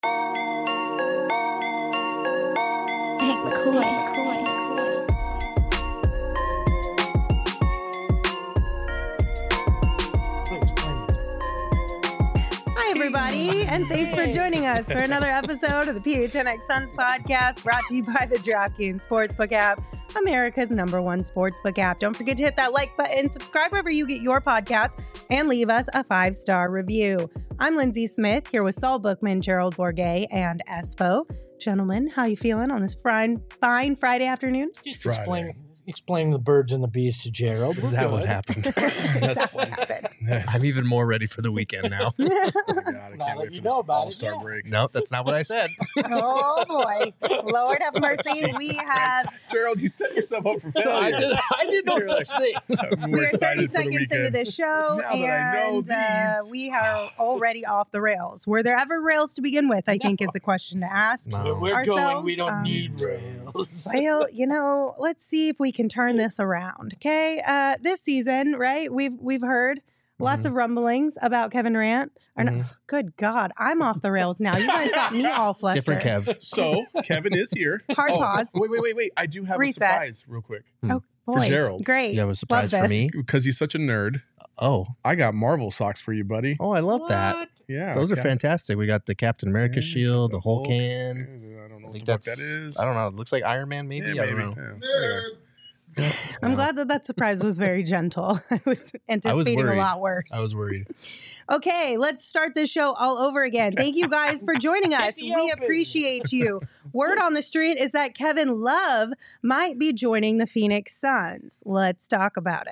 Hank McCoy. Hi, everybody, and thanks for joining us for another episode of the PHNX Suns podcast, brought to you by the DraftKings Sportsbook app, America's #1 sportsbook app. Don't forget to hit that like button, subscribe wherever you get your podcast, and leave us a 5-star review. I'm Lindsay Smith, here with Saul Bookman, Gerald Bourget, and Espo. Gentlemen, how you feeling on this fine Friday afternoon? Just explain the birds and the bees to Gerald. Is that what happened? That's what happened. Yes. I'm even more ready for the weekend now. Oh my God, I can't wait for this all-star break. No, that's not what I said. Oh boy, Lord have mercy. We have Gerald, you set yourself up for failure. I did no such thing. We're 30 seconds into this show, Now that I know and these. we are already off the rails. Were there ever rails to begin with, I think is the question to ask. No. We're going. Ourselves, We don't need rails. Well, let's see if we can turn this around. Okay, this season, right? We've heard lots of rumblings about Kevin Durant. Good God, I'm off the rails now. You guys got me all flustered. Different Kev. So, Kevin is here. Hard pause. Wait. I do have Reset. a surprise real quick. Oh boy, For Gerald. Great. You have a surprise Love for this. me? Because he's such a nerd. Oh, I got Marvel socks for you, buddy. I love that. Yeah. Those are Cap- fantastic. We got the Captain America shield, the Hulk Hulk. hand. I don't know I what think the fuck that's. that is. I don't know. It looks like Iron Man, maybe. Yeah, I don't maybe. know. Yeah. Anyway. I'm glad that surprise was very gentle. I was anticipating a worried. lot worse. I was worried. Okay, let's start this show all over again. Thank you guys for joining us. We appreciate you. Word on the street is that Kevin Love might be joining the Phoenix Suns. Let's talk about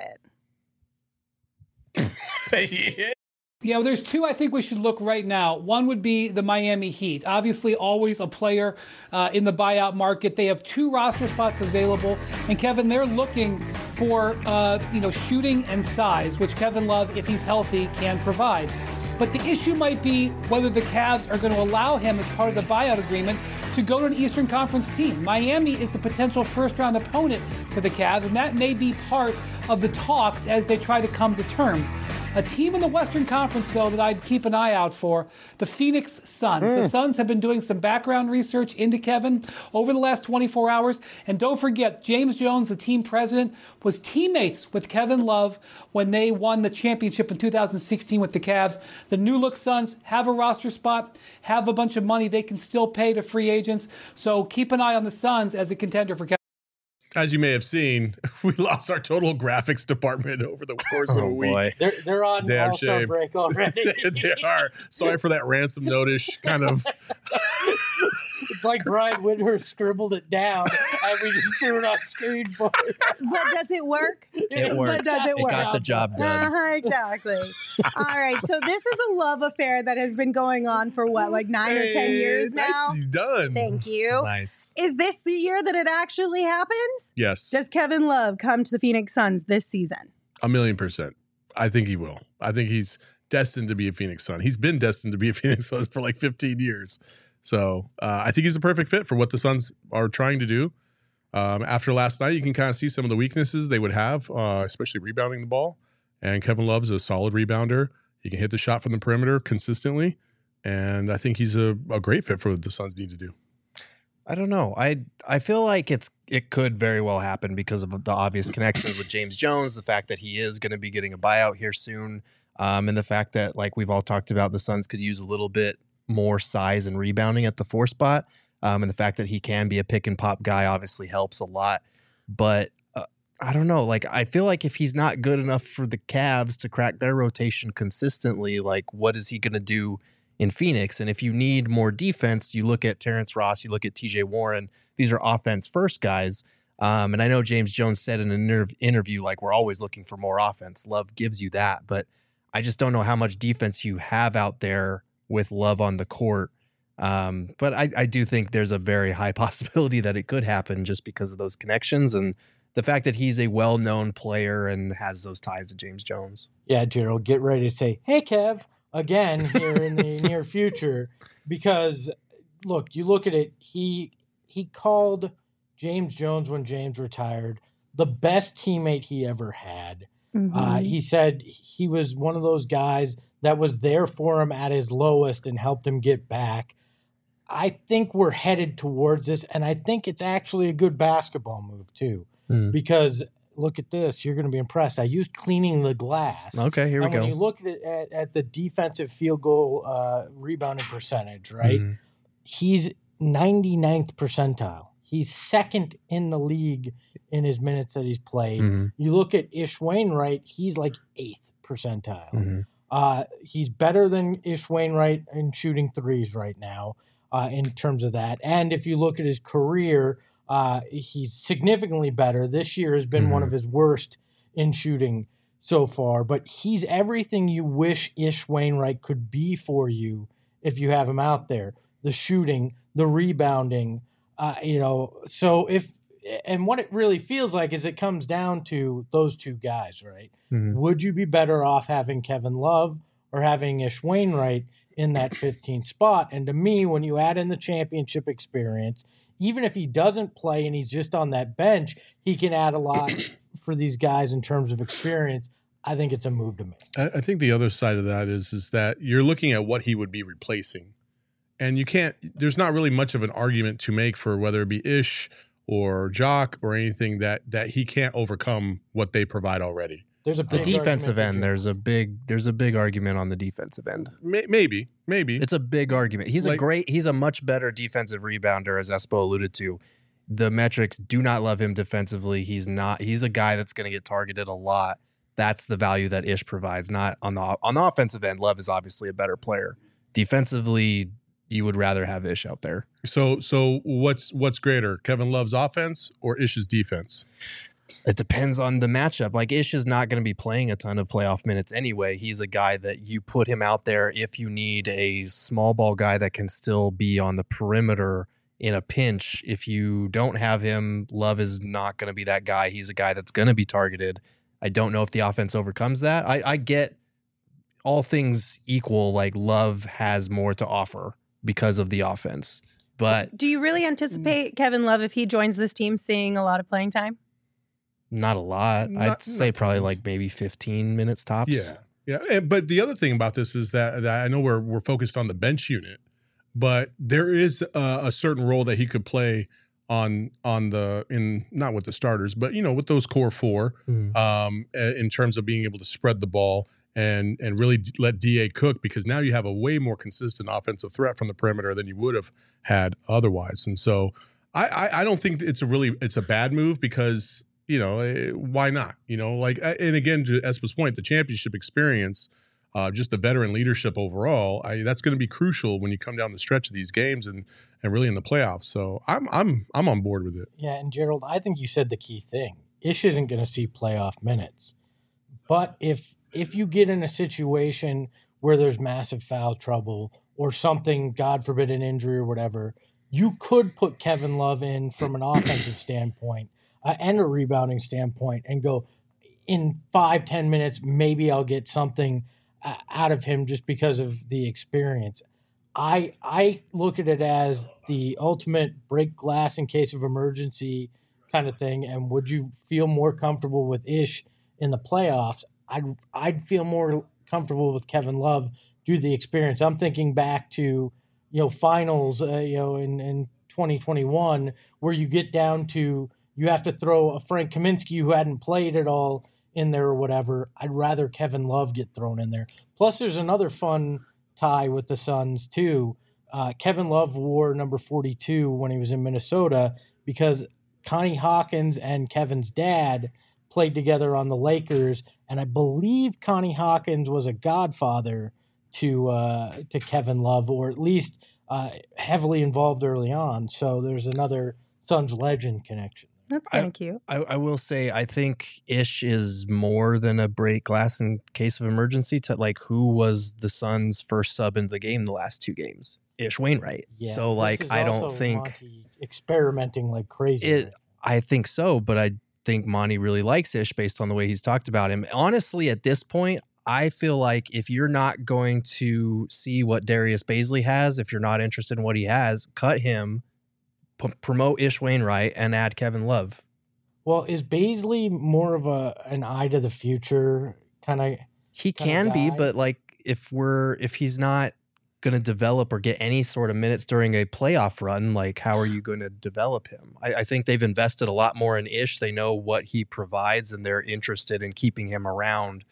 it. Yeah, well, there's two I think we should look right now. One would be the Miami Heat. Obviously, always a player in the buyout market. They have 2 roster spots available. And Kevin, they're looking for shooting and size, which Kevin Love, if he's healthy, can provide. But the issue might be whether the Cavs are going to allow him as part of the buyout agreement to go to an Eastern Conference team. Miami is a potential first-round opponent for the Cavs, and that may be part of the talks as they try to come to terms. A team in the Western Conference, though, that I'd keep an eye out for, the Phoenix Suns. The Suns have been doing some background research into Kevin over the last 24 hours. And don't forget, James Jones, the team president, was teammates with Kevin Love when they won the championship in 2016 with the Cavs. The new look Suns have a roster spot, have a bunch of money they can still pay to free agents. So keep an eye on the Suns as a contender for Kevin. As you may have seen, we lost our total graphics department over the course of a week. Boy. They're on Damn all-star shame. break already. They are. Sorry for that ransom notice kind of. It's like Brian Windhorst scribbled it down, and we just threw it on screen for it. But does it work? It works. But does it work? got the job done. Exactly. All right. So this is a love affair that has been going on for what, like 9 or 10 years now? Nicely done. Thank you. Nice. Is this the year that it actually happens? Yes. Does Kevin Love come to the Phoenix Suns this season? 1,000,000%. I think he will. I think he's destined to be a Phoenix Sun. He's been destined to be a Phoenix Sun for like 15 years. So I think he's a perfect fit for what the Suns are trying to do. After last night, you can kind of see some of the weaknesses they would have, especially rebounding the ball. And Kevin Love's a solid rebounder. He can hit the shot from the perimeter consistently. And I think he's a great fit for what the Suns need to do. I don't know. I feel like it could very well happen because of the obvious connections with James Jones, the fact that he is going to be getting a buyout here soon, and the fact that, like we've all talked about, the Suns could use a little bit more size and rebounding at the 4 spot, and the fact that he can be a pick and pop guy obviously helps a lot. But I don't know. Like, I feel like if he's not good enough for the Cavs to crack their rotation consistently, like, what is he going to do in Phoenix? And if you need more defense, you look at Terrence Ross, you look at TJ Warren. These are offense first guys. And I know James Jones said in an interview, like, we're always looking for more offense. Love gives you that. But I just don't know how much defense you have out there with Love on the court. But I do think there's a very high possibility that it could happen just because of those connections and the fact that he's a well-known player and has those ties to James Jones. Yeah, Gerald, get ready to say, hey, Kev, again here in the near future. Because, look, you look at it, he called James Jones when James retired the best teammate he ever had. Mm-hmm. He said he was one of those guys that was there for him at his lowest and helped him get back. I think we're headed towards this, and I think it's actually a good basketball move too, because look at this. You're going to be impressed. I used cleaning the glass. Okay, here we go. When you look at the defensive field goal rebounding percentage, right? He's 99th percentile. He's second in the league in his minutes that he's played. You look at Ish Wainwright, he's like 8th percentile. He's better than Ish Wainwright in shooting threes right now in terms of that. And if you look at his career, he's significantly better. This year has been one of his worst in shooting so far, but he's everything you wish Ish Wainwright could be for you if you have him out there. The shooting, the rebounding, so and what it really feels like is it comes down to those two guys, right? Would you be better off having Kevin Love or having Ish Wainwright in that 15th spot? And to me, when you add in the championship experience, even if he doesn't play and he's just on that bench, he can add a lot for these guys in terms of experience. I think it's a move to make. I think the other side of that is that you're looking at what he would be replacing. And there's not really much of an argument to make for whether it be Ish or Jock or anything that he can't overcome what they provide already. There's a the defensive end. There's a big argument on the defensive end. Maybe it's a big argument. He's a much better defensive rebounder, as Espo alluded to. The metrics do not love him defensively. He's a guy that's going to get targeted a lot. That's the value that Ish provides. Not on the offensive end. Love is obviously a better player. Defensively, you would rather have Ish out there. So what's greater, Kevin Love's offense or Ish's defense? It depends on the matchup. Like, Ish is not going to be playing a ton of playoff minutes anyway. He's a guy that you put him out there if you need a small ball guy that can still be on the perimeter in a pinch. If you don't have him, Love is not going to be that guy. He's a guy that's going to be targeted. I don't know if the offense overcomes that. I get all things equal, like Love has more to offer because of the offense. But do you really anticipate Kevin Love, if he joins this team, seeing a lot of playing time? Not a lot. I'd say probably like maybe 15 minutes tops. Yeah. But the other thing about this is that I know we're focused on the bench unit, but there is a certain role that he could play not with the starters, but with those core four, in terms of being able to spread the ball and really let DA cook, because now you have a way more consistent offensive threat from the perimeter than you would have had otherwise. And so I don't think it's a bad move, because why not? And again, to Espo's point, the championship experience, just the veteran leadership overall, that's going to be crucial when you come down the stretch of these games and really in the playoffs. So I'm on board with it. Yeah, and Gerald, I think you said the key thing. Ish isn't going to see playoff minutes, but if you get in a situation where there's massive foul trouble or something, God forbid, an injury or whatever, you could put Kevin Love in from an offensive standpoint and a rebounding standpoint and go, in 5-10 minutes, maybe I'll get something out of him just because of the experience. I look at it as the ultimate break glass in case of emergency kind of thing. And would you feel more comfortable with Ish in the playoffs? I'd feel more comfortable with Kevin Love due to the experience. I'm thinking back to finals in 2021, where you get down to you have to throw a Frank Kaminsky who hadn't played at all in there or whatever. I'd rather Kevin Love get thrown in there. Plus, there's another fun tie with the Suns too. Kevin Love wore number 42 when he was in Minnesota because Connie Hawkins and Kevin's dad played together on the Lakers, and I believe Connie Hawkins was a godfather to Kevin Love, or at least heavily involved early on. So there's another Suns legend connection. That's kind of cute. I will say, I think Ish is more than a break glass in case of emergency. To like, who was the Suns' first sub into the game the last two games? Ish Wainwright. Yeah, so like, I don't think Monty experimenting like crazy. I think so, but I think Monty really likes Ish based on the way he's talked about him. Honestly, at this point, I feel like if you're not going to see what Darius Baisley has, if you're not interested in what he has, cut him. Promote Ish Wainwright and add Kevin Love. Well, is Baisley more of an eye to the future kind of? He can be, but like if he's not going to develop or get any sort of minutes during a playoff run, like how are you going to develop him? I think they've invested a lot more in Ish. They know what he provides and they're interested in keeping him around,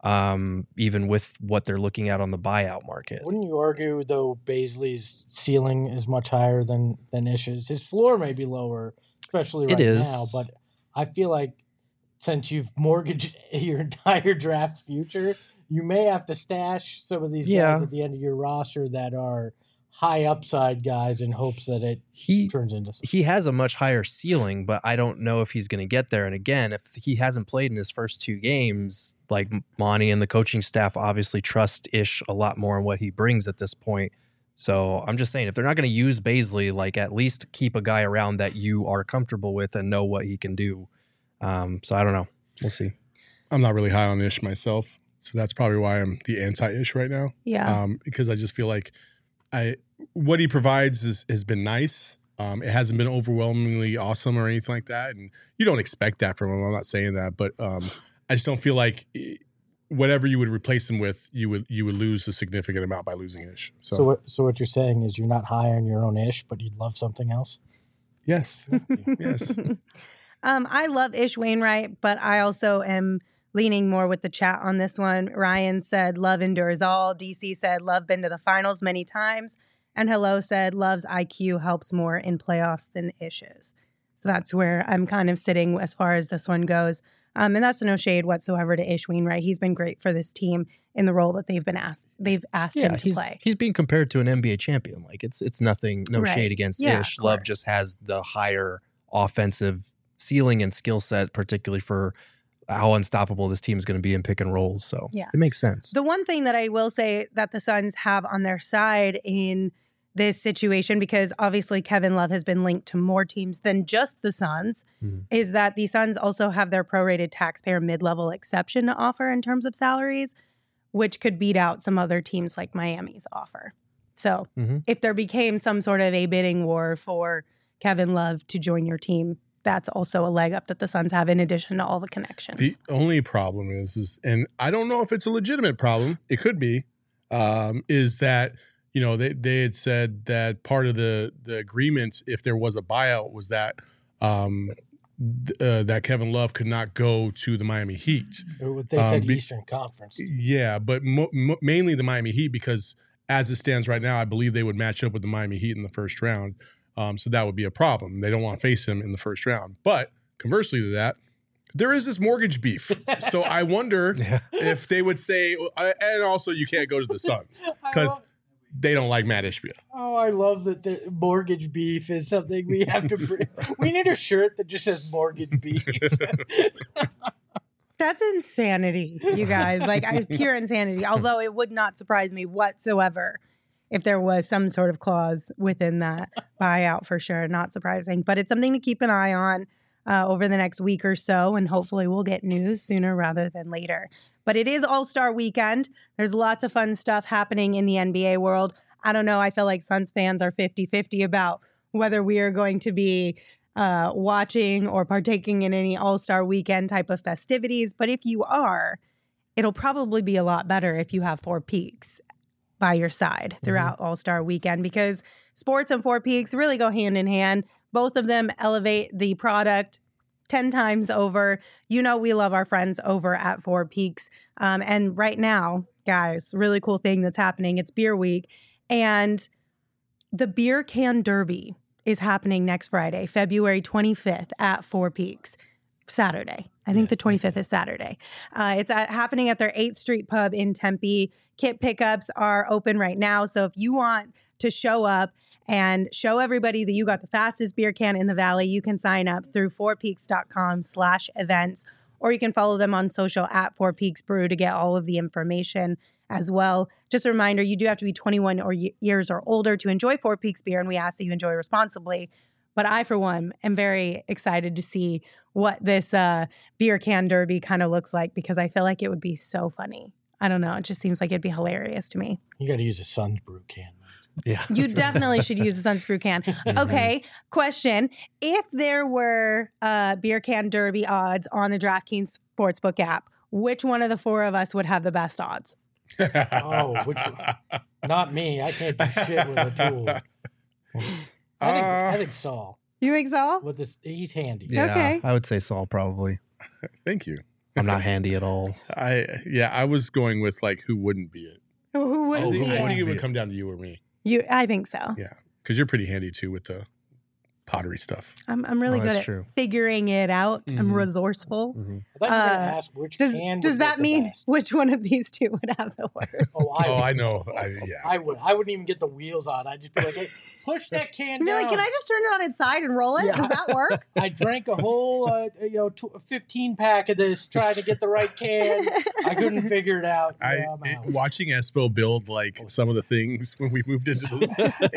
even with what they're looking at on the buyout market. Wouldn't you argue, though, Bazley's ceiling is much higher than Ish's? His floor may be lower, especially right now, but I feel like since you've mortgaged your entire draft future, you may have to stash some of these guys at the end of your roster that are high upside guys in hopes that it turns into something. He has a much higher ceiling, but I don't know if he's going to get there. And again, if he hasn't played in his first 2 games, like Monty and the coaching staff obviously trust Ish a lot more in what he brings at this point. So I'm just saying, if they're not going to use Bazley, like at least keep a guy around that you are comfortable with and know what he can do. So I don't know. We'll see. I'm not really high on Ish myself. So that's probably why I'm the anti-Ish right now. Yeah. Because I just feel like what he provides has been nice. It hasn't been overwhelmingly awesome or anything like that. And you don't expect that from him. I'm not saying that. But I just don't feel like whatever you would replace him with, you would lose a significant amount by losing Ish. So what you're saying is you're not high on your own Ish, but you'd love something else? Yes. Yes. I love Ish Wainwright, but I also am leaning more with the chat on this one. Ryan said, love endures all. DC said, love been to the finals many times. And Hello said, love's IQ helps more in playoffs than Ish's. So that's where I'm kind of sitting as far as this one goes. And that's no shade whatsoever to Ish Wainwright. He's been great for this team in the role that they've asked him to play. He's being compared to an NBA champion. Like it's nothing, no shade against Ish. Love just has the higher offensive ceiling and skill set, particularly for how unstoppable this team is going to be in pick and rolls. So it makes sense. The one thing that I will say that the Suns have on their side in this situation, because obviously Kevin Love has been linked to more teams than just the Suns, is that the Suns also have their prorated taxpayer mid-level exception to offer in terms of salaries, which could beat out some other teams like Miami's offer. So if there became some sort of a bidding war for Kevin Love to join your team, that's also a leg up that the Suns have in addition to all the connections. The only problem is, and I don't know if it's a legitimate problem, it could be, is that, you know, they had said that part of the agreement, if there was a buyout, was that that Kevin Love could not go to the Miami Heat. They said Eastern Conference. Yeah, but mainly the Miami Heat, because as it stands right now, I believe they would match up with the Miami Heat in the first round. So that would be a problem. They don't want to face him in the first round. But conversely to that, there is this mortgage beef. So I wonder if they would say, and also you can't go to the Suns because they don't like Matt Ishbia. Oh, I love that the mortgage beef is something we have to bring. We need a shirt that just says mortgage beef. That's insanity, you guys. Like pure insanity. Although it would not surprise me whatsoever if there was some sort of clause within that buyout, for sure. Not surprising. But it's something to keep an eye on over the next week or so, and hopefully we'll get news sooner rather than later. But it is All-Star Weekend. There's lots of fun stuff happening in the NBA world. I don't know. I feel like Suns fans are 50-50 about whether we are going to be watching or partaking in any All-Star Weekend type of festivities. But if you are, it'll probably be a lot better if you have Four Peaks by your side throughout All-Star Weekend, because sports and Four Peaks really go hand in hand. Both of them elevate the product 10 times over. You know, we love our friends over at Four Peaks. And right now, guys, really cool thing that's happening. It's Beer Week, and the Beer Can Derby is happening next Friday, February 25th at Four Peaks. Saturday. I think the 25th is Saturday. It's happening at their 8th Street Pub in Tempe. Kit pickups are open right now. So if you want to show up and show everybody that you got the fastest beer can in the Valley, you can sign up through fourpeaks.com/events, or you can follow them on social at Four Peaks Brew to get all of the information as well. Just a reminder, you do have to be 21 years or older to enjoy Four Peaks beer, and we ask that you enjoy responsibly. But I, for one, am very excited to see what this beer can derby kind of looks like, because I feel like it would be so funny. I don't know. It just seems like it'd be hilarious to me. You got to use a Suns Brew can. Yeah. You definitely should use a Suns Brew can. Okay, question. If there were beer can derby odds on the DraftKings Sportsbook app, which one of the four of us would have the best odds? Oh, which one? Not me. I can't do shit with a tool. I think Saul. You think so? With this, he's handy. Yeah, Okay. I would say Saul probably. Thank you. I'm not handy at all. I was going with like who wouldn't be it. Who would I be think it? it would come down to you or me. I think so. Yeah, because you're pretty handy too with the pottery stuff. I'm really good that's at true. figuring it out. I'm Mhm. resourceful. I thought you were going to ask which can Does would that get the mean best. which one of these two would have the worst? Oh, I know. I would. I wouldn't even get the wheels on. I'd just be like, hey, push that can Be down. like, can I just turn it on its side and roll it? Yeah. Does that work? I drank a whole, 15 pack of this trying to get the right can. I couldn't figure it out. Yeah, I'm out. Watching Espo build like some of the things when we moved into this,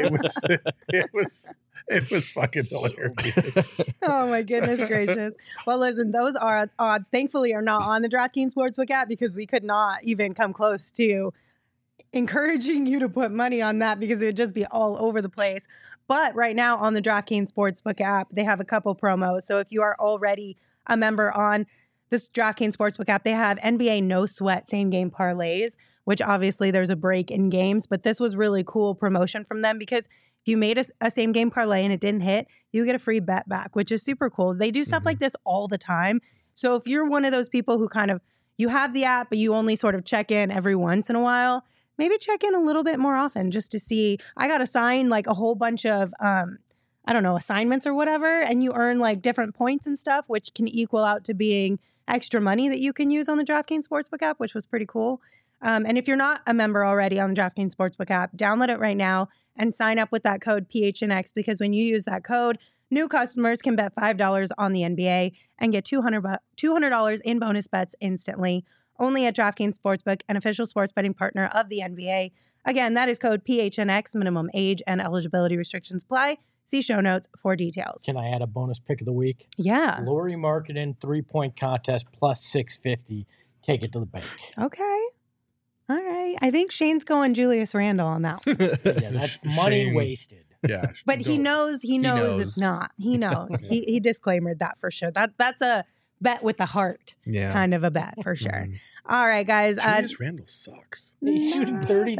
it was fucking hilarious. Oh my goodness gracious. Well, listen, those odds thankfully are not on the DraftKings Sportsbook app because we could not even come close to encouraging you to put money on that because it would just be all over the place. But right now on the DraftKings Sportsbook app, they have a couple promos. So if you are already a member on this DraftKings Sportsbook app, they have NBA No Sweat same game parlays, which obviously there's a break in games, but this was really cool promotion from them because if you made a same game parlay and it didn't hit, you get a free bet back, which is super cool. They do stuff like this all the time. So if you're one of those people who kind of, you have the app, but you only sort of check in every once in a while, maybe check in a little bit more often just to see. I got assigned like a whole bunch of, assignments or whatever, and you earn like different points and stuff, which can equal out to being extra money that you can use on the DraftKings Sportsbook app, which was pretty cool. And if you're not a member already on the DraftKings Sportsbook app, download it right now and sign up with that code PHNX because when you use that code, new customers can bet $5 on the NBA and get $200 in bonus bets instantly. Only at DraftKings Sportsbook, an official sports betting partner of the NBA. Again, that is code PHNX. Minimum age and eligibility restrictions apply. See show notes for details. Can I add a bonus pick of the week? Yeah. Laurie Markkinen 3-point contest plus 650. Take it to the bank. Okay. All right. I think Shane's going Julius Randle on that one. Yeah, that's money Shane. wasted. Yeah, But he knows it's not. He knows. He disclaimed that for sure. That's a bet with the heart kind of a bet for sure. Mhm. All right, guys. Julius Randle sucks. He's shooting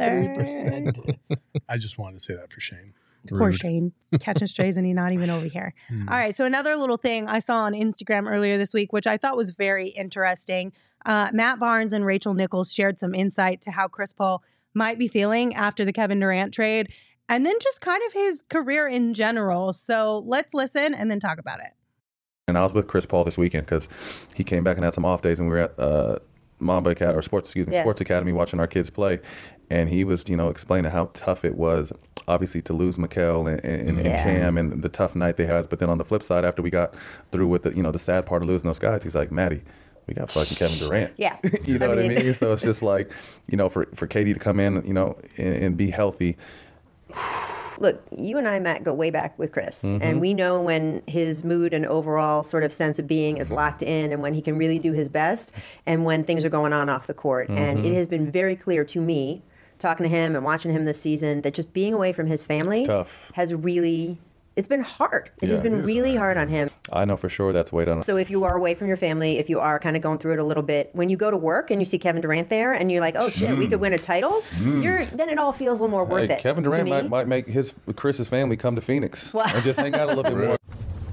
33%. I just wanted to say that for Shane. Poor Rude. Shane catching strays and he's not even over here. All right. So another little thing I saw on Instagram earlier this week, which I thought was very interesting. Matt Barnes and Rachel Nichols shared some insight to how Chris Paul might be feeling after the Kevin Durant trade and then just kind of his career in general. So let's listen and then talk about it. And I was with Chris Paul this weekend because he came back and had some off days, and we were at Mamba Academy, or Sports Academy, watching our kids play. And he was, explaining how tough it was, obviously, to lose Mikal and Cam and the tough night they had. But then on the flip side, after we got through with the sad part of losing those guys, he's like, Maddie, we got fucking Kevin Durant. Yeah. You know what I mean? So it's just like, for KD to come in, and be healthy. Look, you and I, Matt, go way back with Chris, and we know when his mood and overall sort of sense of being is locked in and when he can really do his best and when things are going on off the court. And it has been very clear to me, talking to him and watching him this season, that just being away from his family has really, it's been hard. It has been really hard on him. I know for sure that's weighed on. So if you are away from your family, if you are kind of going through it a little bit, when you go to work and you see Kevin Durant there and you're like, oh shit, we could win a title, then it all feels a little more worth it. Kevin Durant might make Chris's family come to Phoenix and just hang out a little bit more.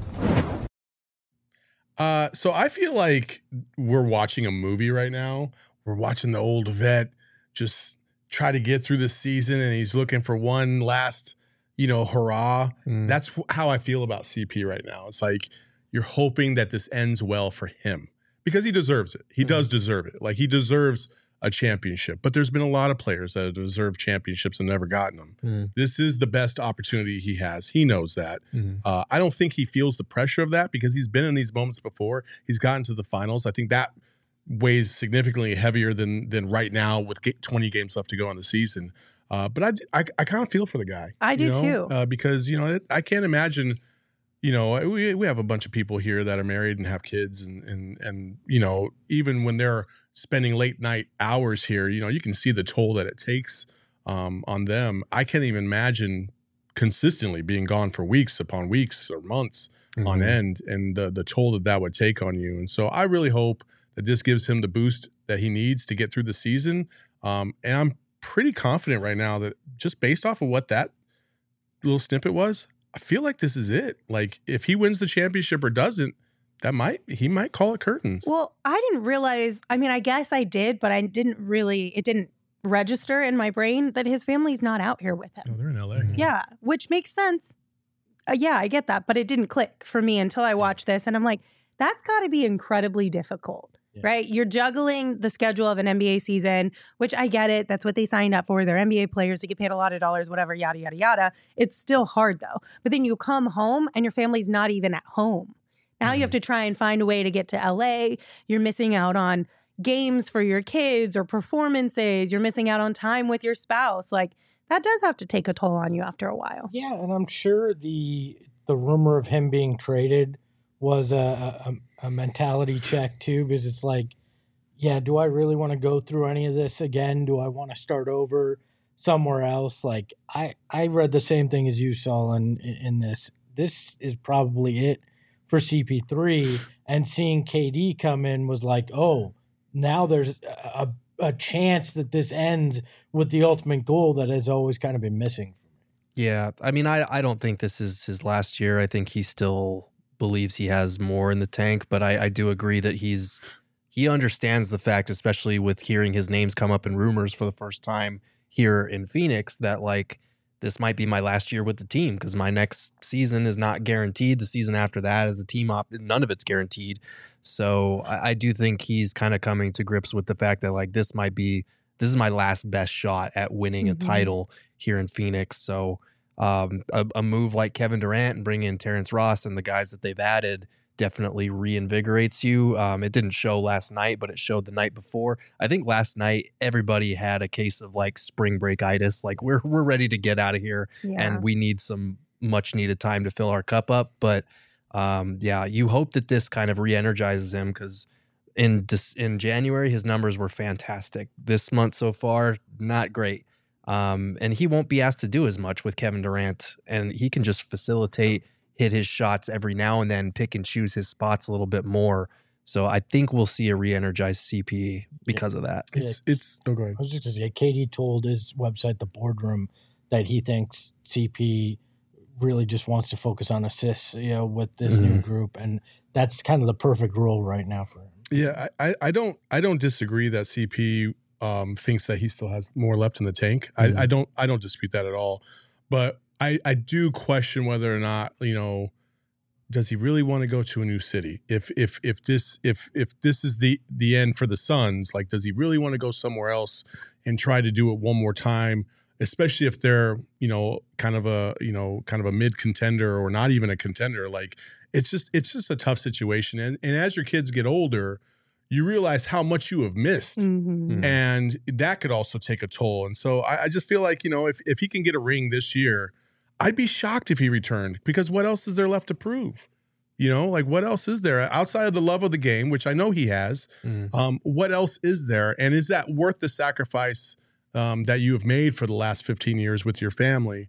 So I feel like we're watching a movie right now. We're watching the old vet just try to get through the season, and he's looking for one last, hurrah. That's how I feel about CP right now. It's like you're hoping that this ends well for him because he deserves it. He does deserve it. Like, he deserves a championship. But there's been a lot of players that deserve championships and never gotten them. This is the best opportunity he has. He knows that. I don't think he feels the pressure of that because he's been in these moments before. He's gotten to the finals. I think that weighs significantly heavier than right now with 20 games left to go on the season. But I kind of feel for the guy. I do too. Because, I can't imagine, we have a bunch of people here that are married and have kids and even when they're spending late night hours here, you can see the toll that it takes on them. I can't even imagine consistently being gone for weeks upon weeks or months on end and the toll that would take on you. And so I really hope that this gives him the boost that he needs to get through the season. And I'm pretty confident right now that just based off of what that little snippet was, I feel like this is it. Like if he wins the championship or doesn't, he might call it curtains. Well, I didn't realize, I mean, I guess I did, but it didn't register in my brain that his family's not out here with him. Oh, they're in LA. Yeah, which makes sense. Yeah, I get that, but it didn't click for me until I watched this. And I'm like, that's got to be incredibly difficult, right? You're juggling the schedule of an NBA season, which I get it. That's what they signed up for. They're NBA players. They get paid a lot of dollars, whatever, yada, yada, yada. It's still hard though. But then you come home and your family's not even at home. Now you have to try and find a way to get to LA. You're missing out on games for your kids or performances. You're missing out on time with your spouse. Like that does have to take a toll on you after a while. Yeah, and I'm sure the rumor of him being traded was a mentality check too, because it's like, yeah, do I really want to go through any of this again? Do I want to start over somewhere else? Like I read the same thing as you, Saul, in this. This is probably it for CP3, and seeing KD come in was like, oh, now there's a chance that this ends with the ultimate goal that has always kind of been missing. Yeah, I mean, I don't think this is his last year. I think he still believes he has more in the tank, but I do agree that he understands the fact, especially with hearing his names come up in rumors for the first time here in Phoenix, that like, this might be my last year with the team because my next season is not guaranteed. The season after that is a team op. None of it's guaranteed. So I do think he's kind of coming to grips with the fact that like this is my last best shot at winning a title here in Phoenix. So a move like Kevin Durant and bring in Terrence Ross and the guys that they've added definitely reinvigorates you. It didn't show last night, but it showed the night before. I think last night everybody had a case of like spring break-itis. Like we're ready to get out of here and we need some much needed time to fill our cup up. But you hope that this kind of re-energizes him because in January his numbers were fantastic. This month so far, not great. And he won't be asked to do as much with Kevin Durant, and he can just facilitate, hit his shots every now and then, pick and choose his spots a little bit more. So I think we'll see a re-energized CP because of that. Go ahead. I was just going to say, KD told his website, The Boardroom, that he thinks CP really just wants to focus on assists, with this new group, and that's kind of the perfect role right now for him. Yeah, I don't disagree that CP thinks that he still has more left in the tank. I don't dispute that at all, but I do question whether or not, does he really want to go to a new city? If this is the end for the Suns, like, does he really want to go somewhere else and try to do it one more time? Especially if they're, kind of a mid contender or not even a contender. Like, it's just a tough situation. And as your kids get older, you realize how much you have missed. And that could also take a toll. And so I just feel like, if he can get a ring this year, I'd be shocked if he returned, because what else is there left to prove? Like, what else is there outside of the love of the game, which I know he has? What else is there? And is that worth the sacrifice that you have made for the last 15 years with your family?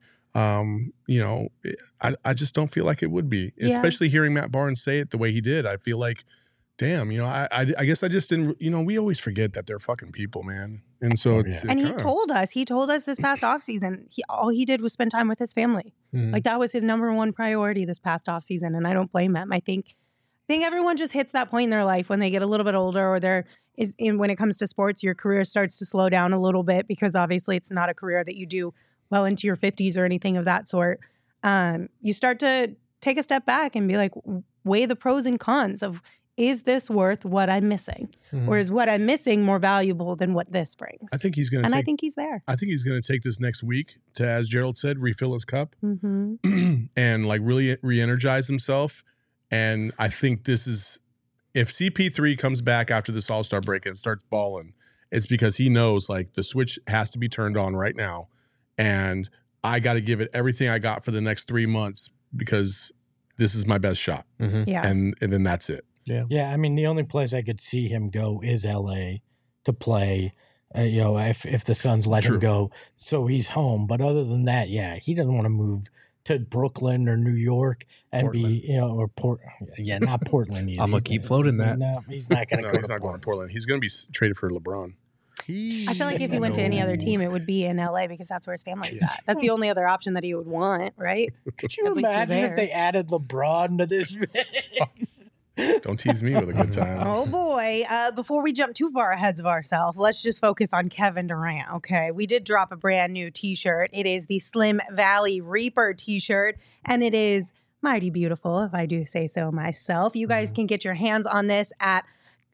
I just don't feel like it would be, especially hearing Matt Barnes say it the way he did. I feel like, damn, I guess I just didn't, we always forget that they're fucking people, man. And so, he told us this past offseason, all he did was spend time with his family. Like that was his number one priority this past offseason. And I don't blame him. I think everyone just hits that point in their life when they get a little bit older, or when it comes to sports, your career starts to slow down a little bit, because obviously it's not a career that you do well into your 50s or anything of that sort. You start to take a step back and be like, weigh the pros and cons of, is this worth what I'm missing? Or is what I'm missing more valuable than what this brings? I think he's going to I think he's there. I think he's going to take this next week to, as Gerald said, refill his cup and like really re-energize himself. And I think this is, if CP3 comes back after this All-Star break and starts balling, it's because he knows like the switch has to be turned on right now. And I got to give it everything I got for the next 3 months, because this is my best shot. Yeah. And then that's it. Yeah. I mean, the only place I could see him go is LA to play, if the Suns let him go. So he's home. But other than that, he doesn't want to move to Brooklyn or New York and Portland. Not Portland either. I'm going to keep floating that. No, he's not going to go. He's not going to Portland. He's going to be traded for LeBron. I feel like if he went to any other team, it would be in LA because that's where his family's at. That's the only other option that he would want, right? Could you At least you're imagine if there. they added LeBron to this mix? Don't tease me with a good time. Oh boy. Before we jump too far ahead of ourselves, let's just focus on Kevin Durant. Okay. We did drop a brand new t-shirt. It is the Slim Valley Reaper t-shirt, and it is mighty beautiful, if I do say so myself. You guys can get your hands on this at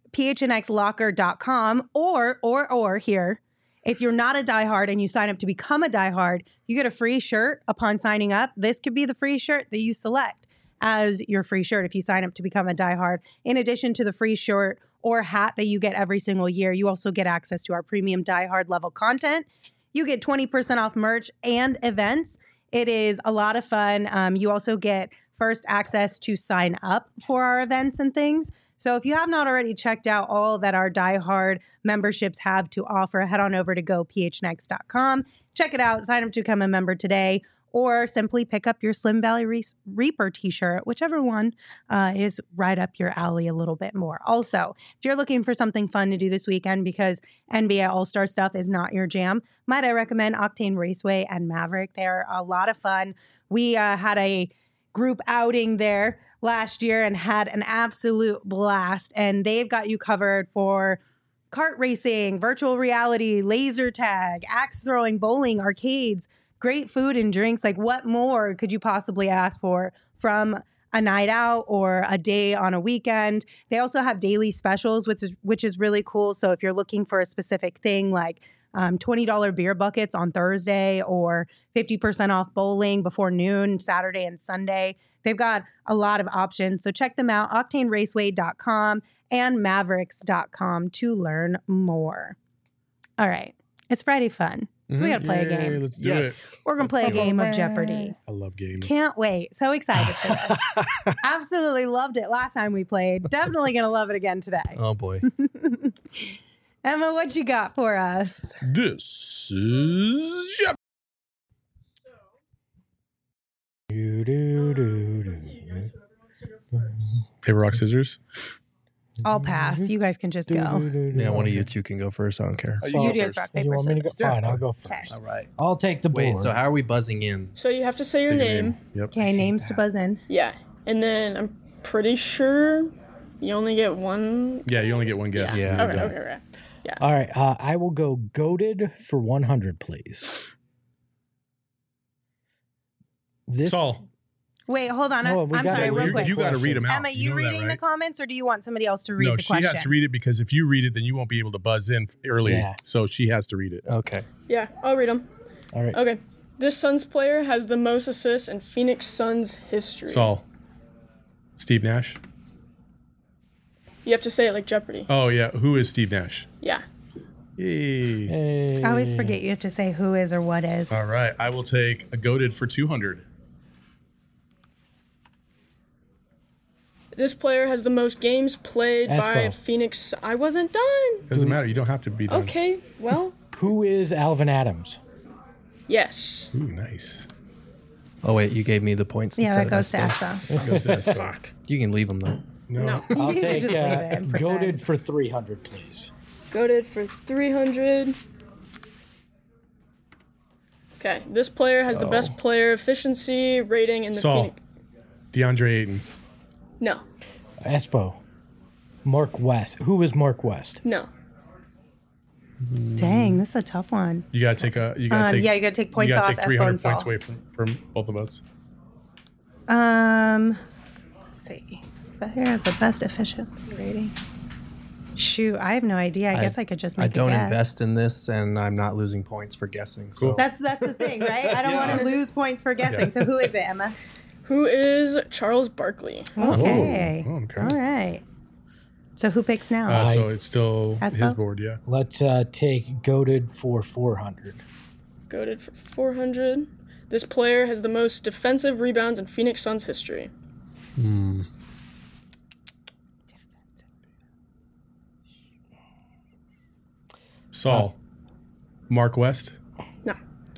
phnxlocker.com or here. If you're not a diehard and you sign up to become a diehard, you get a free shirt upon signing up. This could be the free shirt that you select as your free shirt if you sign up to become a diehard. In addition to the free shirt or hat that you get every single year, you also get access to our premium diehard level content. You get 20% off merch and events. It is a lot of fun. You also get first access to sign up for our events and things. So if you have not already checked out all that our diehard memberships have to offer, head on over to gophnx.com. Check it out. Sign up to become a member today, or simply pick up your Slim Valley Reaper t-shirt, whichever one is right up your alley a little bit more. Also, if you're looking for something fun to do this weekend because NBA All-Star stuff is not your jam, might I recommend Octane Raceway and Maverick. They're a lot of fun. We had a group outing there last year and had an absolute blast, and they've got you covered for kart racing, virtual reality, laser tag, axe throwing, bowling, arcades, great food and drinks. Like, what more could you possibly ask for from a night out or a day on a weekend? They also have daily specials, which is really cool. So if you're looking for a specific thing like $20 beer buckets on Thursday or 50% off bowling before noon, Saturday and Sunday, they've got a lot of options. So check them out, octaneraceway.com and mavericks.com to learn more. All right. It's Friday fun. So we got to play a game. Let's do it. We're going to play a game of Jeopardy. I love games. Can't wait. So excited for this. Absolutely loved it last time we played. Definitely going to love it again today. Oh boy. Emma, what you got for us? This is Jeopardy. Paper, rock, scissors. I'll pass. You guys can just go. Yeah, one of you two can go first. I don't care. You do rock, You paper, want me to go? scissors. Fine, I'll go first. Okay. All right. I'll take the board. Wait, so how are we buzzing in? So you have to say your Take a name. Yep. Okay, names to buzz in. Yeah. And then I'm pretty sure you only get one. Yeah, you only get one guess. Yeah. Okay. All right, I will go goated for 100, please. This Saul, Wait, hold on. No, we I'm gotta sorry, read real you, quick. you got to read them out. Emma, you know that, reading the right? comments, or do you want somebody else to read No, the she question? has to read it because if you read it, then you won't be able to buzz in earlier. Yeah. So she has to read it. Okay. Yeah, I'll read them. All right. Okay. This Suns player has the most assists in Phoenix Suns history. Saul. Steve Nash. You have to say it like Jeopardy. Oh, yeah. Who is Steve Nash? Yeah. Yay. Hey. I always forget you have to say who is or what is. All right. I will take a goated for 200. This player has the most games played by Espo. Phoenix. I wasn't done. Doesn't matter. You don't have to be done. Okay, well, Who is Alvin Adams? yes. Ooh, nice. Oh wait, you gave me the points. Yeah, that instead goes to of Espo. Espo. Goes to Espo. You can leave them though. No. I'll You could take just leave it and pretend. goated for 300, please. Goated for 300. Okay, this player has the best player efficiency rating in the Saul. Phoenix. DeAndre Ayton. No, Espo. Mark West. Who is Mark West? no. Dang, this is a tough one. You gotta take a. You gotta take. Yeah, you got to take points You gotta off. take Espo 300 and Saul. points away from both of us. Let's see. But here is the best efficiency rating. Shoot, I have no idea. I guess I could just make I don't a guess. invest in this, and I'm not losing points for guessing. So Cool. That's the thing, right? I don't want to lose points for guessing. So who is it, Emma? Who is Charles Barkley? Okay. Oh, okay. All right. So who picks now? So it's still Espo? his board, yeah. Let's take goated for 400. Goated for 400. This player has the most defensive rebounds in Phoenix Suns history. Saul. Mark West. No.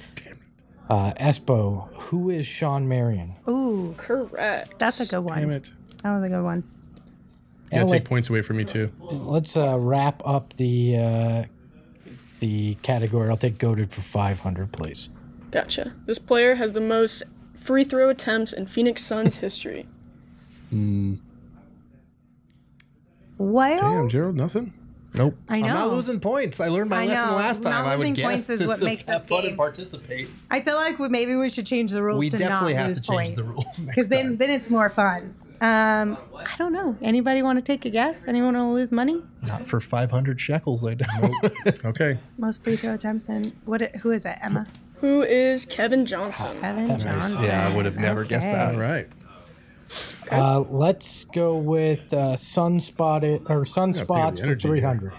Espo. Who is Sean Marion? Ooh, Correct. that's a good one. Damn it. That was a good one. You gotta And take points away from me too. let's wrap up the the category. I'll take goated for 500, please. Gotcha. This player has the most free throw attempts in Phoenix Suns history. Well, Damn, Gerald, nothing? Nope. I know. I'm not losing points. I learned my I lesson know. last time. Not I would losing guess points is to what makes have this fun game. and participate. I feel like maybe we should change the rules We to definitely not have lose to change the points. rules next Because then it's more fun. I don't know. Anybody want to take a guess? Anyone want to lose money? Not for 500 shekels, I don't. Okay. Most free throw attempts and who is it? Emma? Who is Kevin Johnson? Kevin Johnson. Yeah, I would have never guessed Okay. that. All right. Let's go with sunspots the for energy 300.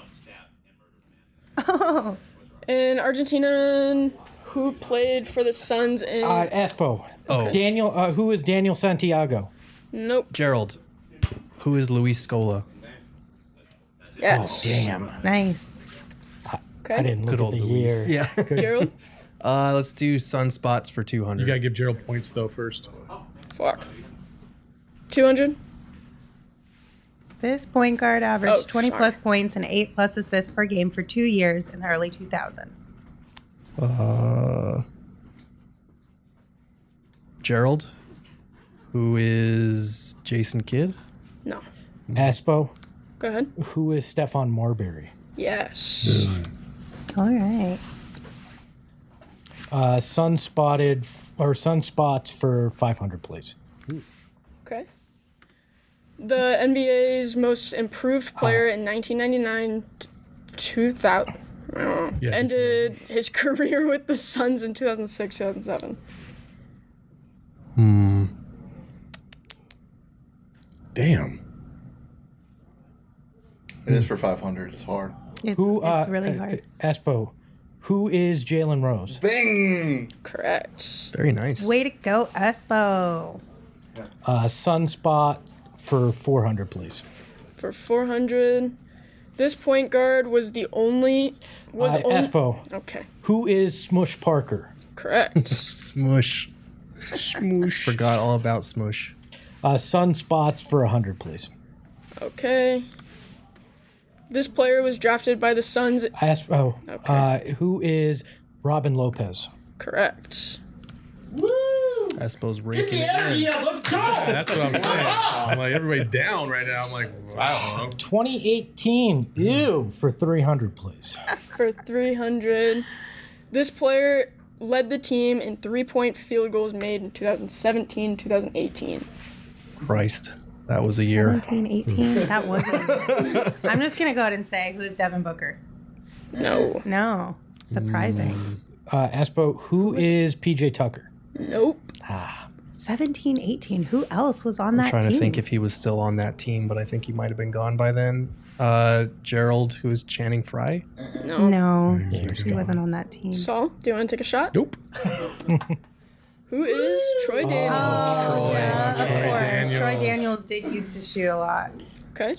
Oh, In Argentina, who played for the Suns in... Espo. Oh. Daniel. Who is Daniel Santiago? Nope. Gerald, who is Luis Scola? Yes. Damn. nice. Okay. I didn't look Good at old the Luis. year. Yeah. Gerald? Let's do sunspots for 200. You got to give Gerald points, though, first. Fuck. 200? This point guard averaged Oh, 20 sorry. plus points and 8 plus assists per game for 2 years in the early 2000s. Gerald, who is Jason Kidd? No. Espo. Go ahead. Who is Stefan Marbury? Yes. All right. Sunspots for 500, please. Okay. The NBA's most improved player in 1999 2000 Yeah, ended his career with the Suns in 2006, 2007. Damn. It is for 500. It's hard. It's really hard. Espo. Who is Jalen Rose? Bing! Correct. Very nice. Way to go, Espo. Sunspot for 400, please. For 400, this point guard was the only... Espo. Okay. Who is Smush Parker? Correct. Smush. Smoosh. Forgot all about Smush. Sunspots for 100, please. Okay. This player was drafted by the Suns. Espo. Okay. Who is Robin Lopez? Correct. Espo's raking it in. Yeah, let's go! That's what I'm saying. I'm like, everybody's down right now. I'm like, wow. 2018. Ew. For 300, please. For 300, this player led the team in three-point field goals made in 2017, 2018. Christ. That was a year. 17, 18. That wasn't. I'm just going to go ahead and say, who's Devin Booker? No. No. Surprising. Espo. Who is PJ Tucker? Nope. 17, 18. Who else was on I'm that trying team? to think if he was still on that team, but I think he might have been gone by then. Gerald, who is Channing Frye? No. No, he wasn't on that team. Saul, do you want to take a shot? Nope. Who is Troy Daniels? Oh, yeah, of Troy course. Daniels. Troy Daniels did used to shoot a lot. Okay.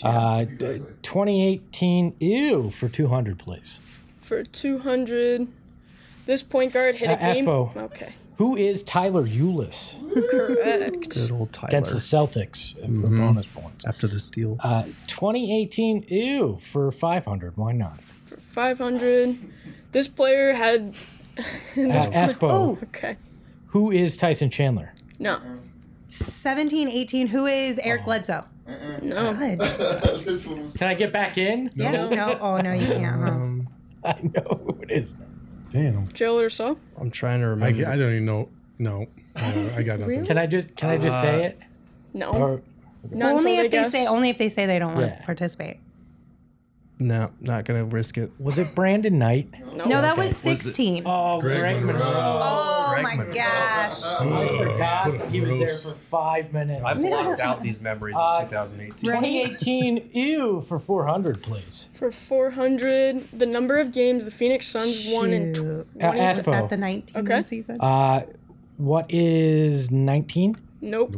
2018. Ew. For 200, please. For 200, this point guard hit a game. Espo. Okay. Who is Tyler Eulis? Correct. Good old Tyler. Against the Celtics for bonus points. After the steal. 2018. Ew. For 500. Why not? For 500, this player had. Espo. Oh, Okay. Who is Tyson Chandler? No. 17, 18. Who is Eric Bledsoe? No. Good. This one was Can I get back in? Yeah, no. Oh, no, you can't. Huh? I know who it is. Damn. Gerald or Saul? I'm trying to I remember. don't even know. No. I got nothing. Can I just say it? No. Or Not Only until if they they guess. say they don't want Yeah. to participate. No, not going to risk it. was it Brandon Knight? No, that was 16. Oh, Greg Monroe. Oh Greg my Monroe. gosh. I forgot he was there for 5 minutes. I've blocked out these memories of 2018. 2018. Ew. For 400, please. For 400, the number of games the Phoenix Suns won in Shoot. Espo. Is that the 19 Okay. season? What is 19? Nope.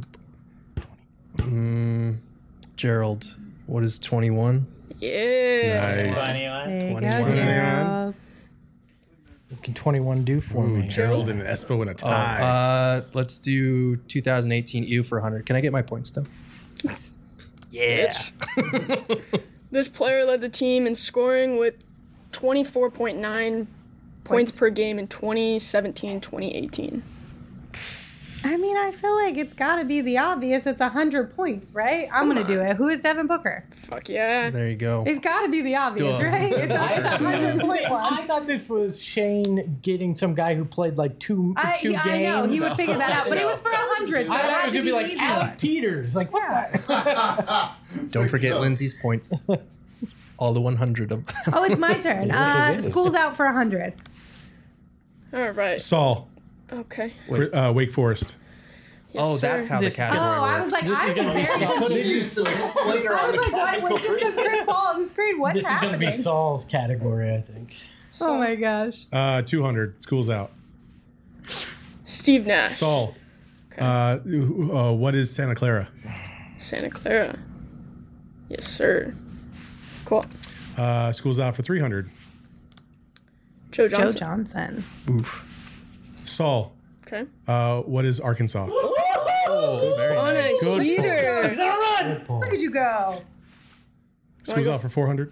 Gerald, what is 21? Yeah. Nice. There you go, 21. Gerald. What can 21 do for Ooh, me? Gerald and Espo in a tie. Let's do 2018 EU for 100. Can I get my points though? Bitch. This player led the team in scoring with 24.9 points per game in 2017-2018. I mean, I feel like it's got to be the obvious. It's 100 points, right? I'm going to do it. Who is Devin Booker? Fuck yeah. There you go. It's got to be the obvious, Duh. right? It's a 100 point one. I thought this was Shane getting some guy who played like two games. I know. He would figure that out. But it was for 100, so I it thought it had was to gonna be be like easy Alec one. Peters. Like what? Yeah. Don't forget Lindsay's points. All the 100 of them. Oh, it's my turn. Yes, it is. School's out for 100. All right. Saul, Okay. Wake Forest. Yes, Oh, sir. that's how This- the category Oh, I was works. like, I'm embarrassed. Used to explain I was like, what? It just says Chris Paul on the screen. What's This is going to happening? be Saul's category, I think. Oh my gosh. 200. School's out. Steve Nash. Saul, what is Santa Clara? Santa Clara. Yes, sir. Cool. School's out for 300. Joe Joe Johnson. Johnson. Saul, Okay. what is Arkansas? Oh, very On nice. a Good heater. Look at you go. School's out for 400.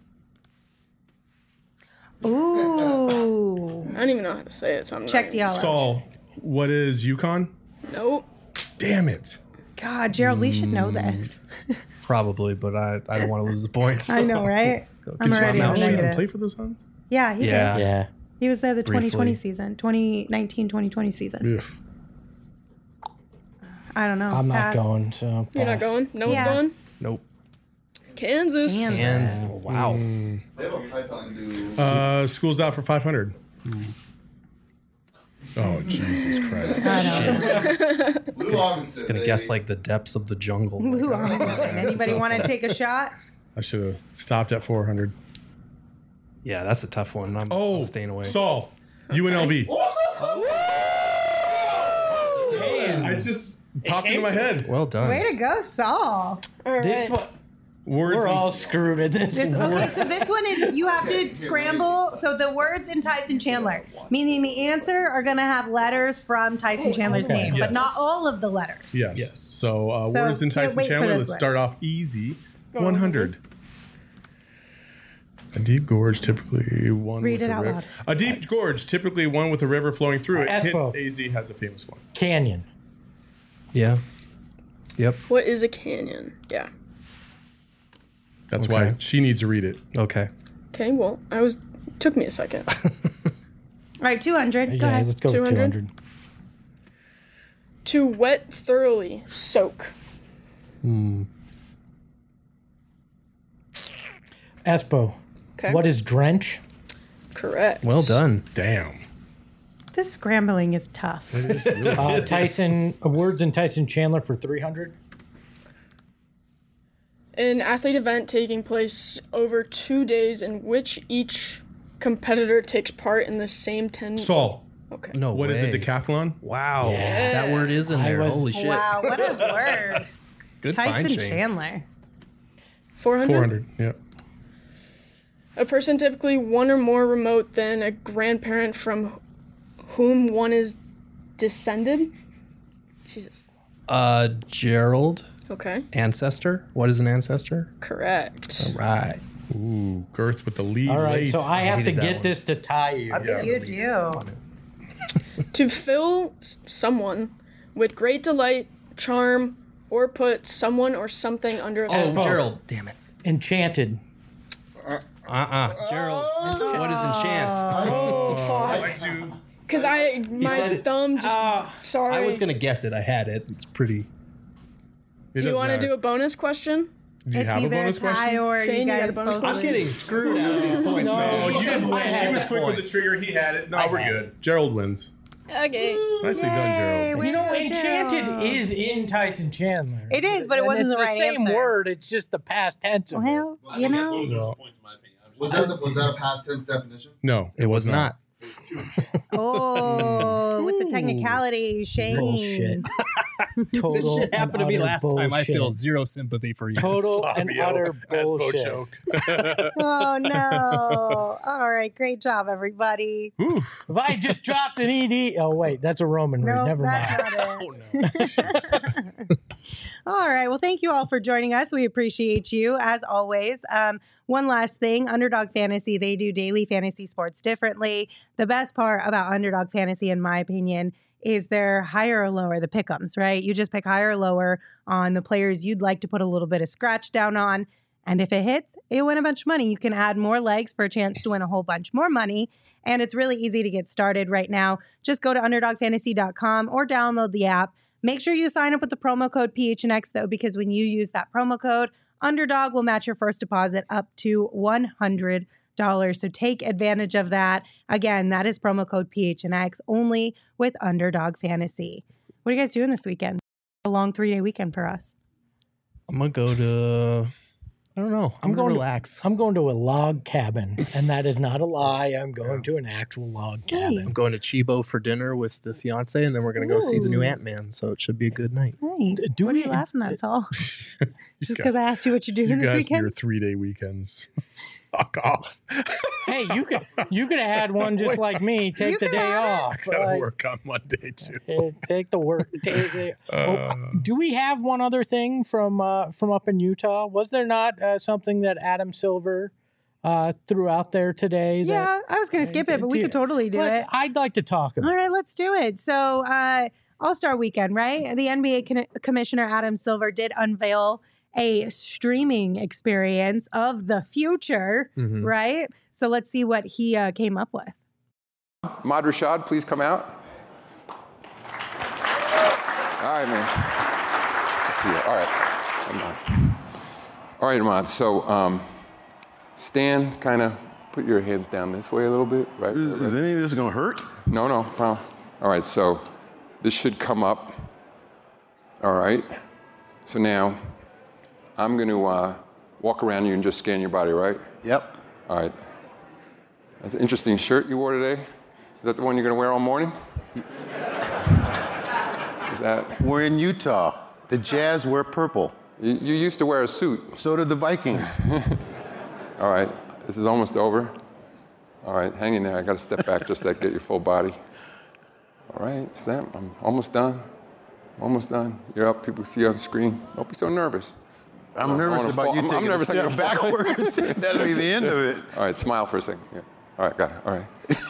Ooh. I don't even know how to say it, so I'm not Check even- Diallo. Saul, what is Yukon? Nope. Damn it. God, Gerald, we should know this. Probably, but I don't want to lose the points. I know, right? I'm Did already John on the Mount even negative. play for the Suns? Yeah, he Yeah. did. Yeah. He was there the 2020 Briefly. season, 2019-2020 season. Ugh. I don't know. I'm not Pass. going, so. You're not pass. going? No Yes. one's going? Nope. Kansas. Kansas. And wow. They have a python do. School's out for 500. Oh, Jesus Christ. I know. Lou Robinson. Gonna guess like the depths of the jungle. Lou Robinson. Anybody want to take a shot? I should have stopped at 400. Yeah, that's a tough one. I'm staying away. Saul, UNLV. It just popped into my head. Well done. Way to go, Saul. All This right. one, Words. we're all screwed in this. Okay, so this one is you have to scramble. So the words in Tyson Chandler, meaning the answer are going to have letters from Tyson Chandler's Okay. name, but Yes. not all of the letters. Yes. Yes. So, So, words in can't Tyson wait for Chandler. this Let's one. start off easy. 100. A deep gorge, typically one Read with it a out river. loud. A deep gorge, typically one with a river flowing through it. Espo. Hint, AZ has a famous one. Canyon. Yeah. Yep. What is a canyon? Yeah. That's Okay. why she needs to read it. Okay. Okay, well, took me a second. All right, 200. Go Yeah, ahead. let's go 200. 200. To wet, thoroughly, soak. Espo. Okay. What is drench? Correct. Well done. Damn. This scrambling is tough. Tyson. Words in Tyson Chandler for 300. An athlete event taking place over 2 days in which each competitor takes part in the same 10. Saul, Okay. No what is way. it? Decathlon? Wow. Yeah. That word is in I there. was- Holy shit. Wow, what a word. Good find, Tyson Shane. Chandler. 400? 400. Yep. A person typically one or more remote than a grandparent from whom one is descended. Jesus. Gerald. Okay. Ancestor. What is an ancestor? Correct. Right. Ooh, Girth with the lead. All right, late. so I have to hated that get one. this to tie you. You do. To fill someone with great delight, charm, or put someone or something under a Oh, spell. Gerald. Damn it. Enchanted. Gerald. What is enchant? Oh, fuck. I do. Because my said it. thumb just. Sorry. I was going to guess it. I had it. It's pretty. Do you want to do a bonus question? Do you It's have a either a bonus tie question? or Shane, you you got guys a bonus both question? lose. I'm getting screwed out of these points, man. Oh, She was quick with the trigger. He had it. No, we're good. Gerald wins. Okay. Nicely done, Yay, Gerald. way You know, to go, Enchanted Gerald. is in Tyson Chandler. It is, but it And wasn't it's the right same answer. word. It's just the past tense of it. Well, you know. Was that a past tense definition? No, It was not. Oh, with the technicality, Shane. Bullshit. Total This shit happened to and me utter last time. I feel bullshit. zero sympathy for you. Total and utter bullshit. choked. Oh no! All right, great job, everybody. If I just dropped an ED, oh wait, that's a Roman read. No, Never that's mind. not it. All right. Well, thank you all for joining us. We appreciate you as always. one last thing, Underdog Fantasy, they do daily fantasy sports differently. The best part about Underdog Fantasy, in my opinion, is their higher or lower, the pick'ems, right? You just pick higher or lower on the players you'd like to put a little bit of scratch down on. And if it hits, you win a bunch of money. You can add more legs for a chance to win a whole bunch more money. And it's really easy to get started right now. Just go to UnderdogFantasy.com or download the app. Make sure you sign up with the promo code PHNX, though, because when you use that promo code, Underdog will match your first deposit up to $100. So take advantage of that. Again, that is promo code PHNX only with Underdog Fantasy. What are you guys doing this weekend? A long 3-day weekend for us. I'm going to go to... I don't know. I'm going to relax. I'm going to a log cabin, and that is not a lie. I'm going to an actual log cabin. I'm going to Chibo for dinner with the fiance, and then we're going to go see the new Ant-Man. So it should be a good night. Nice. What are you laughing at, Saul? Just because I asked you what you're doing this weekend? Your 3-day weekends. Fuck off. Hey, you could have had one just like me. Take the day off. I gotta work on Monday too. Take the work day. Do we have one other thing from up in Utah? Was there not something that Adam Silver threw out there today? Yeah, I was going to skip it, but we could totally do it. I'd like to talk about it. All right, let's do it. So All-Star Weekend, right? The NBA Commissioner Adam Silver did unveil a streaming experience of the future, right? So let's see what he came up with. Ahmad Rashad, please come out. All right, man. Let's see you. All right. Come on. All right, Ahmad. So stand, kind of put your hands down this way a little bit, right? Is any of this going to hurt? No. All right, so this should come up. All right. So now I'm going to walk around you and just scan your body, right? Yep. All right. That's an interesting shirt you wore today. Is that the one you're going to wear all morning? Is that? We're in Utah. The Jazz wear purple. You used to wear a suit. So did the Vikings. All right. This is almost over. All right. Hang in there. I got to step back just to get your full body. All right. Snap. I'm almost done. Almost done. You're up. People see you on the screen. Don't be so nervous. I'm nervous about you taking a step backwards. That'll be the end of it. All right, smile for a second. Yeah. All right, got it. All right.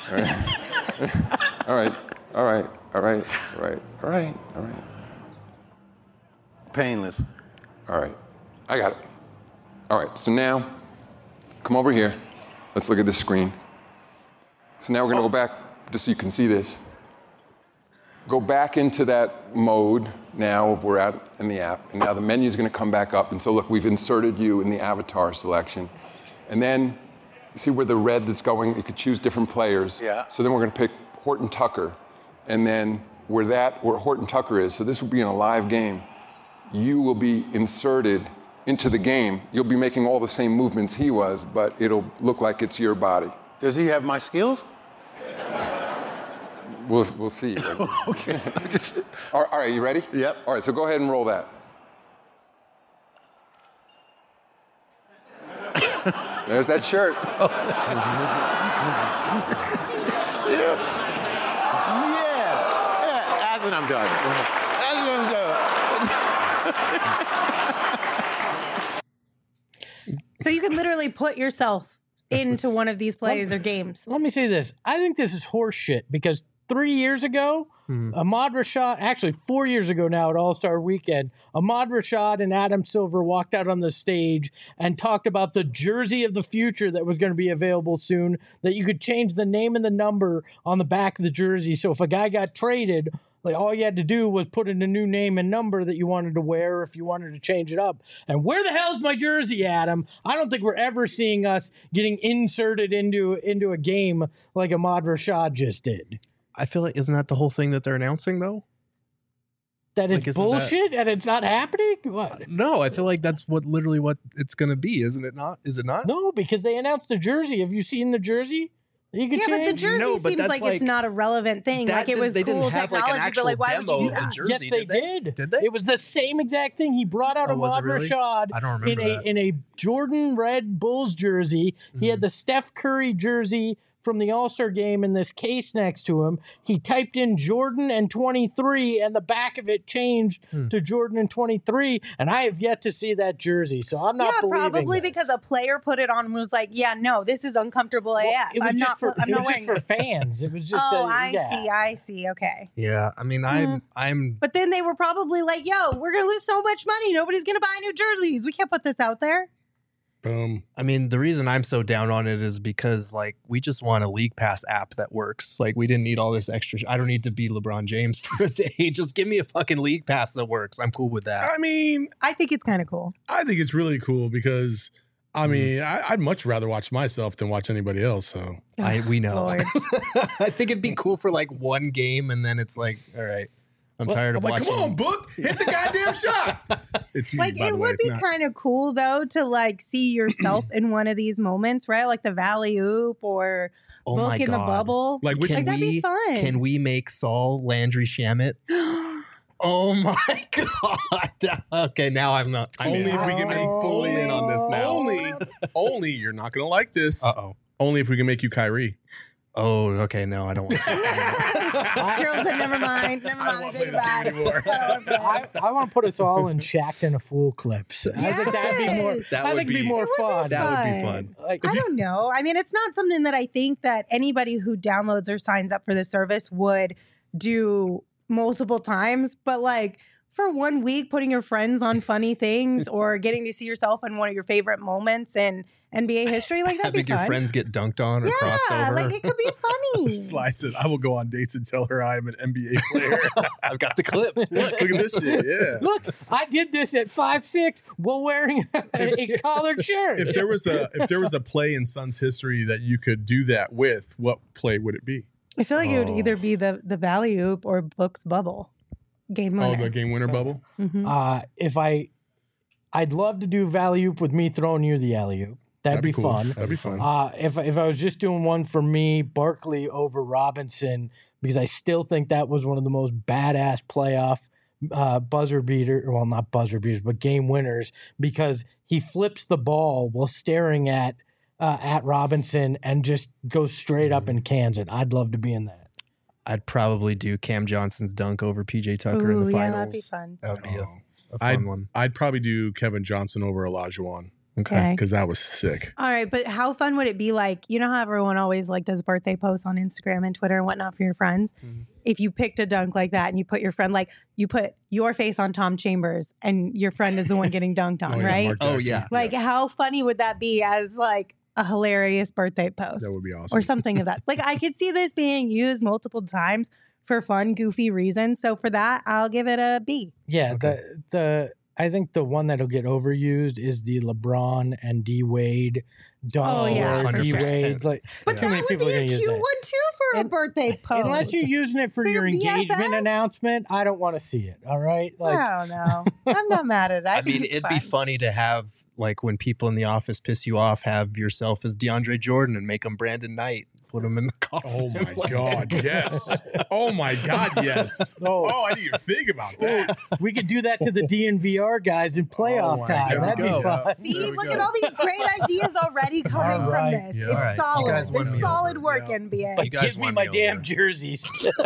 All right. All right. All right. All right. All right. All right. Painless. All right. I got it. All right, so now, come over here. Let's look at this screen. So now we're going to go back just so you can see this. Go back into that mode now of we're out in the app. And now the menu is going to come back up. And so look, we've inserted you in the avatar selection. And then you see where the red that's going, you could choose different players. Yeah. So then we're going to pick Horton Tucker. And then where Horton Tucker is, so this will be in a live game, you will be inserted into the game. You'll be making all the same movements he was, but it'll look like it's your body. Does he have my skills? We'll see. Okay. All right, you ready? Yep. All right, so go ahead and roll that. There's that shirt. Yeah, that's what I'm doing. That's what I'm doing. So you can literally put yourself into one of these plays or games. Let me say this. I think this is horse shit because 3 years ago, Ahmad Rashad, actually 4 years ago now at All-Star Weekend, Ahmad Rashad and Adam Silver walked out on the stage and talked about the jersey of the future that was going to be available soon, that you could change the name and the number on the back of the jersey. So if a guy got traded, like all you had to do was put in a new name and number that you wanted to wear if you wanted to change it up. And where the hell's my jersey, Adam? I don't think we're ever seeing us getting inserted into a game like Ahmad Rashad just did. I feel like, isn't that the whole thing that they're announcing, though? That it's bullshit and it's not happening? What? No, I feel like that's literally what it's going to be, isn't it not? Is it not? No, because they announced the jersey. Have you seen the jersey? You could yeah, change? but the jersey seems like it's not a relevant thing. Like it was cool technology, but like why would you do that? Yes, they did. Did they? It was the same exact thing. He brought out Ahmad Rashad in a Jordan red Bulls jersey. He had the Steph Curry jersey from the All-Star game in this case next to him. He typed in Jordan and 23, and the back of it changed to Jordan and 23, and I have yet to see that jersey, so I'm not believing probably this. because a player put it on and was like, yeah, no, this is uncomfortable AF. It was I'm just not wearing for this. fans. It was just I see. Okay. Yeah, I mean, I'm. But then they were probably like, yo, we're going to lose so much money. Nobody's going to buy new jerseys. We can't put this out there. Boom. I mean, the reason I'm so down on it is because, like, we just want a League Pass app that works. Like, we didn't need all this extra. I don't need to be LeBron James for a day. Just give me a fucking League Pass that works. I'm cool with that. I mean, I think it's kind of cool. I think it's really cool because, I mean, I'd much rather watch myself than watch anybody else. So we know. Lord. I think it'd be cool for like one game, and then it's like, all right, I'm tired of watching. Come on, Book, hit the goddamn shot. It's me, Like, by it the way. would be kind of cool, though, to, like, see yourself in one of these moments, right? Like the Valley Oop or Book in the Bubble. Like, which that'd be fun. Can we make Saul Landry Shamet? Oh my god! Okay, now I'm not. Only if we can make fully in on this now. Only you're not gonna like this. Uh-oh. Only if we can make you Kyrie. Oh, okay. No, I don't want this. Girls said, never mind. I take it back. I want to put us all in Shaq and a Fool clips. I think that'd be more. That would be more fun. That would be fun. Like, I don't know. I mean, it's not something that I think that anybody who downloads or signs up for the service would do multiple times, but like for 1 week, putting your friends on funny things or getting to see yourself in one of your favorite moments in NBA history, like that'd be Having fun. your friends get dunked on or crossed over. Like it could be funny. Slice it. I will go on dates and tell her I am an NBA player. I've got the clip. Look at this shit. Yeah. Look, I did this at 5'6" while wearing a collared shirt. If there was a play in Suns history that you could do that with, what play would it be? I feel like it would either be the Valley Oop or Book's Bubble. Game winner. Oh, the game winner bubble? Mm-hmm. I'd love to do Valley Oop with me throwing you the alley oop. That'd be cool. fun. That'd be fun. If I was just doing one for me, Barkley over Robinson, because I still think that was one of the most badass playoff buzzer beater. Well, not buzzer beaters, but game winners, because he flips the ball while staring at Robinson and just goes straight up and cans it. I'd love to be in that. I'd probably do Cam Johnson's dunk over PJ Tucker in the finals. Yeah, that'd be fun. That would be a fun one. I'd probably do Kevin Johnson over Olajuwon. Okay. Because that was sick. All right, but how fun would it be? Like, you know how everyone always like does birthday posts on Instagram and Twitter and whatnot for your friends? Mm-hmm. If you picked a dunk like that and you put your friend, like you put your face on Tom Chambers and your friend is the one getting dunked on, right? Oh, yeah. Like, how funny would that be as like a hilarious birthday post? That would be awesome. Or something of that. Like, I could see this being used multiple times for fun, goofy reasons. So for that, I'll give it a B. Yeah, okay. I think the one that'll get overused is the LeBron and D Wade dunk. Oh, yeah. D Wade's like, but that would be a cute one too for a birthday post. Unless you're using it for your engagement announcement, I don't want to see it. All right, like, I don't know. I'm not mad at it. I mean, it'd be funny to have, like, when people in the office piss you off, have yourself as DeAndre Jordan and make him Brandon Knight. Put him in the coffin. Oh my God, yes. Oh my God, yes. Oh, I didn't even think about that. We could do that to the DNVR guys in playoff time. That'd be fun. See, look at all these great ideas already coming from this. Yeah, it's solid. It's solid over. work, NBA. But give me my damn jerseys.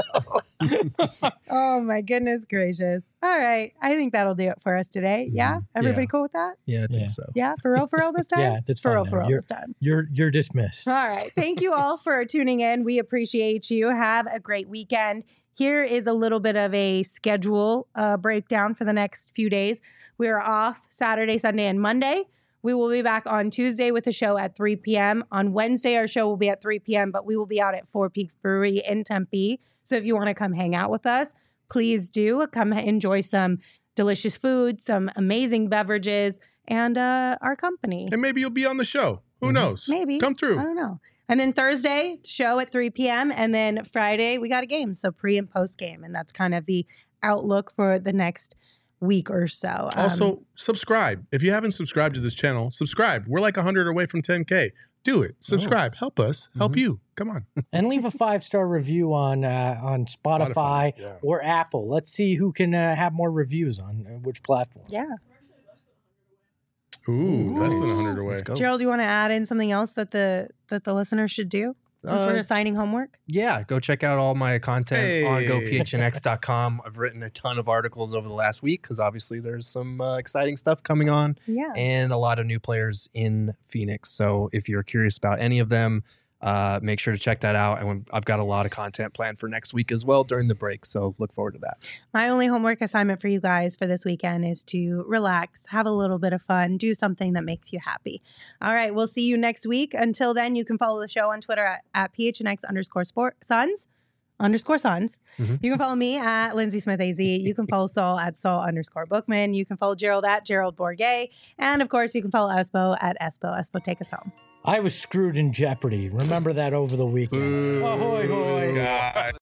Oh my goodness gracious. All right. I think that'll do it for us today. Yeah? Everybody cool with that? Yeah, I think so. Yeah, for real this time? Yeah, it's for fine. real this time. You're dismissed. All right. Thank you all for tuning in. We appreciate you. Have a great weekend. Here is a little bit of a schedule breakdown for the next few days. We are off Saturday, Sunday, and Monday. We will be back on Tuesday with a show at 3 p.m. On Wednesday, our show will be at 3 p.m., but we will be out at Four Peaks Brewery in Tempe. So if you want to come hang out with us, please do. Come enjoy some delicious food, some amazing beverages, and our company. And maybe you'll be on the show. Who knows? Maybe. Come through. I don't know. And then Thursday, show at 3 p.m. And then Friday, we got a game. So pre and post game. And that's kind of the outlook for the next week or so. Also, subscribe. If you haven't subscribed to this channel, subscribe. We're like 100 away from 10K. Do it. Subscribe. Help us. Help you. Come on. And leave a 5-star review on Spotify or Apple. Let's see who can have more reviews on which platform. Yeah. Ooh, less than 100 away. Gerald, do you want to add in something else that the listeners should do? Some sort of signing homework? Yeah, go check out all my content on gophnx.com. I've written a ton of articles over the last week because obviously there's some exciting stuff coming on and a lot of new players in Phoenix. So if you're curious about any of them, make sure to check that out. And I've got a lot of content planned for next week as well during the break. So look forward to that. My only homework assignment for you guys for this weekend is to relax, have a little bit of fun, do something that makes you happy. All right. We'll see you next week. Until then, you can follow the show on Twitter at PHNX_Suns. You can follow me at Lindsay Smith AZ. You can follow Saul at Saul_Bookman. You can follow Gerald at Gerald Bourget. And of course, you can follow Espo at Espo. Espo, take us home. I was screwed in Jeopardy. Remember that over the weekend. Ahoy, hoy.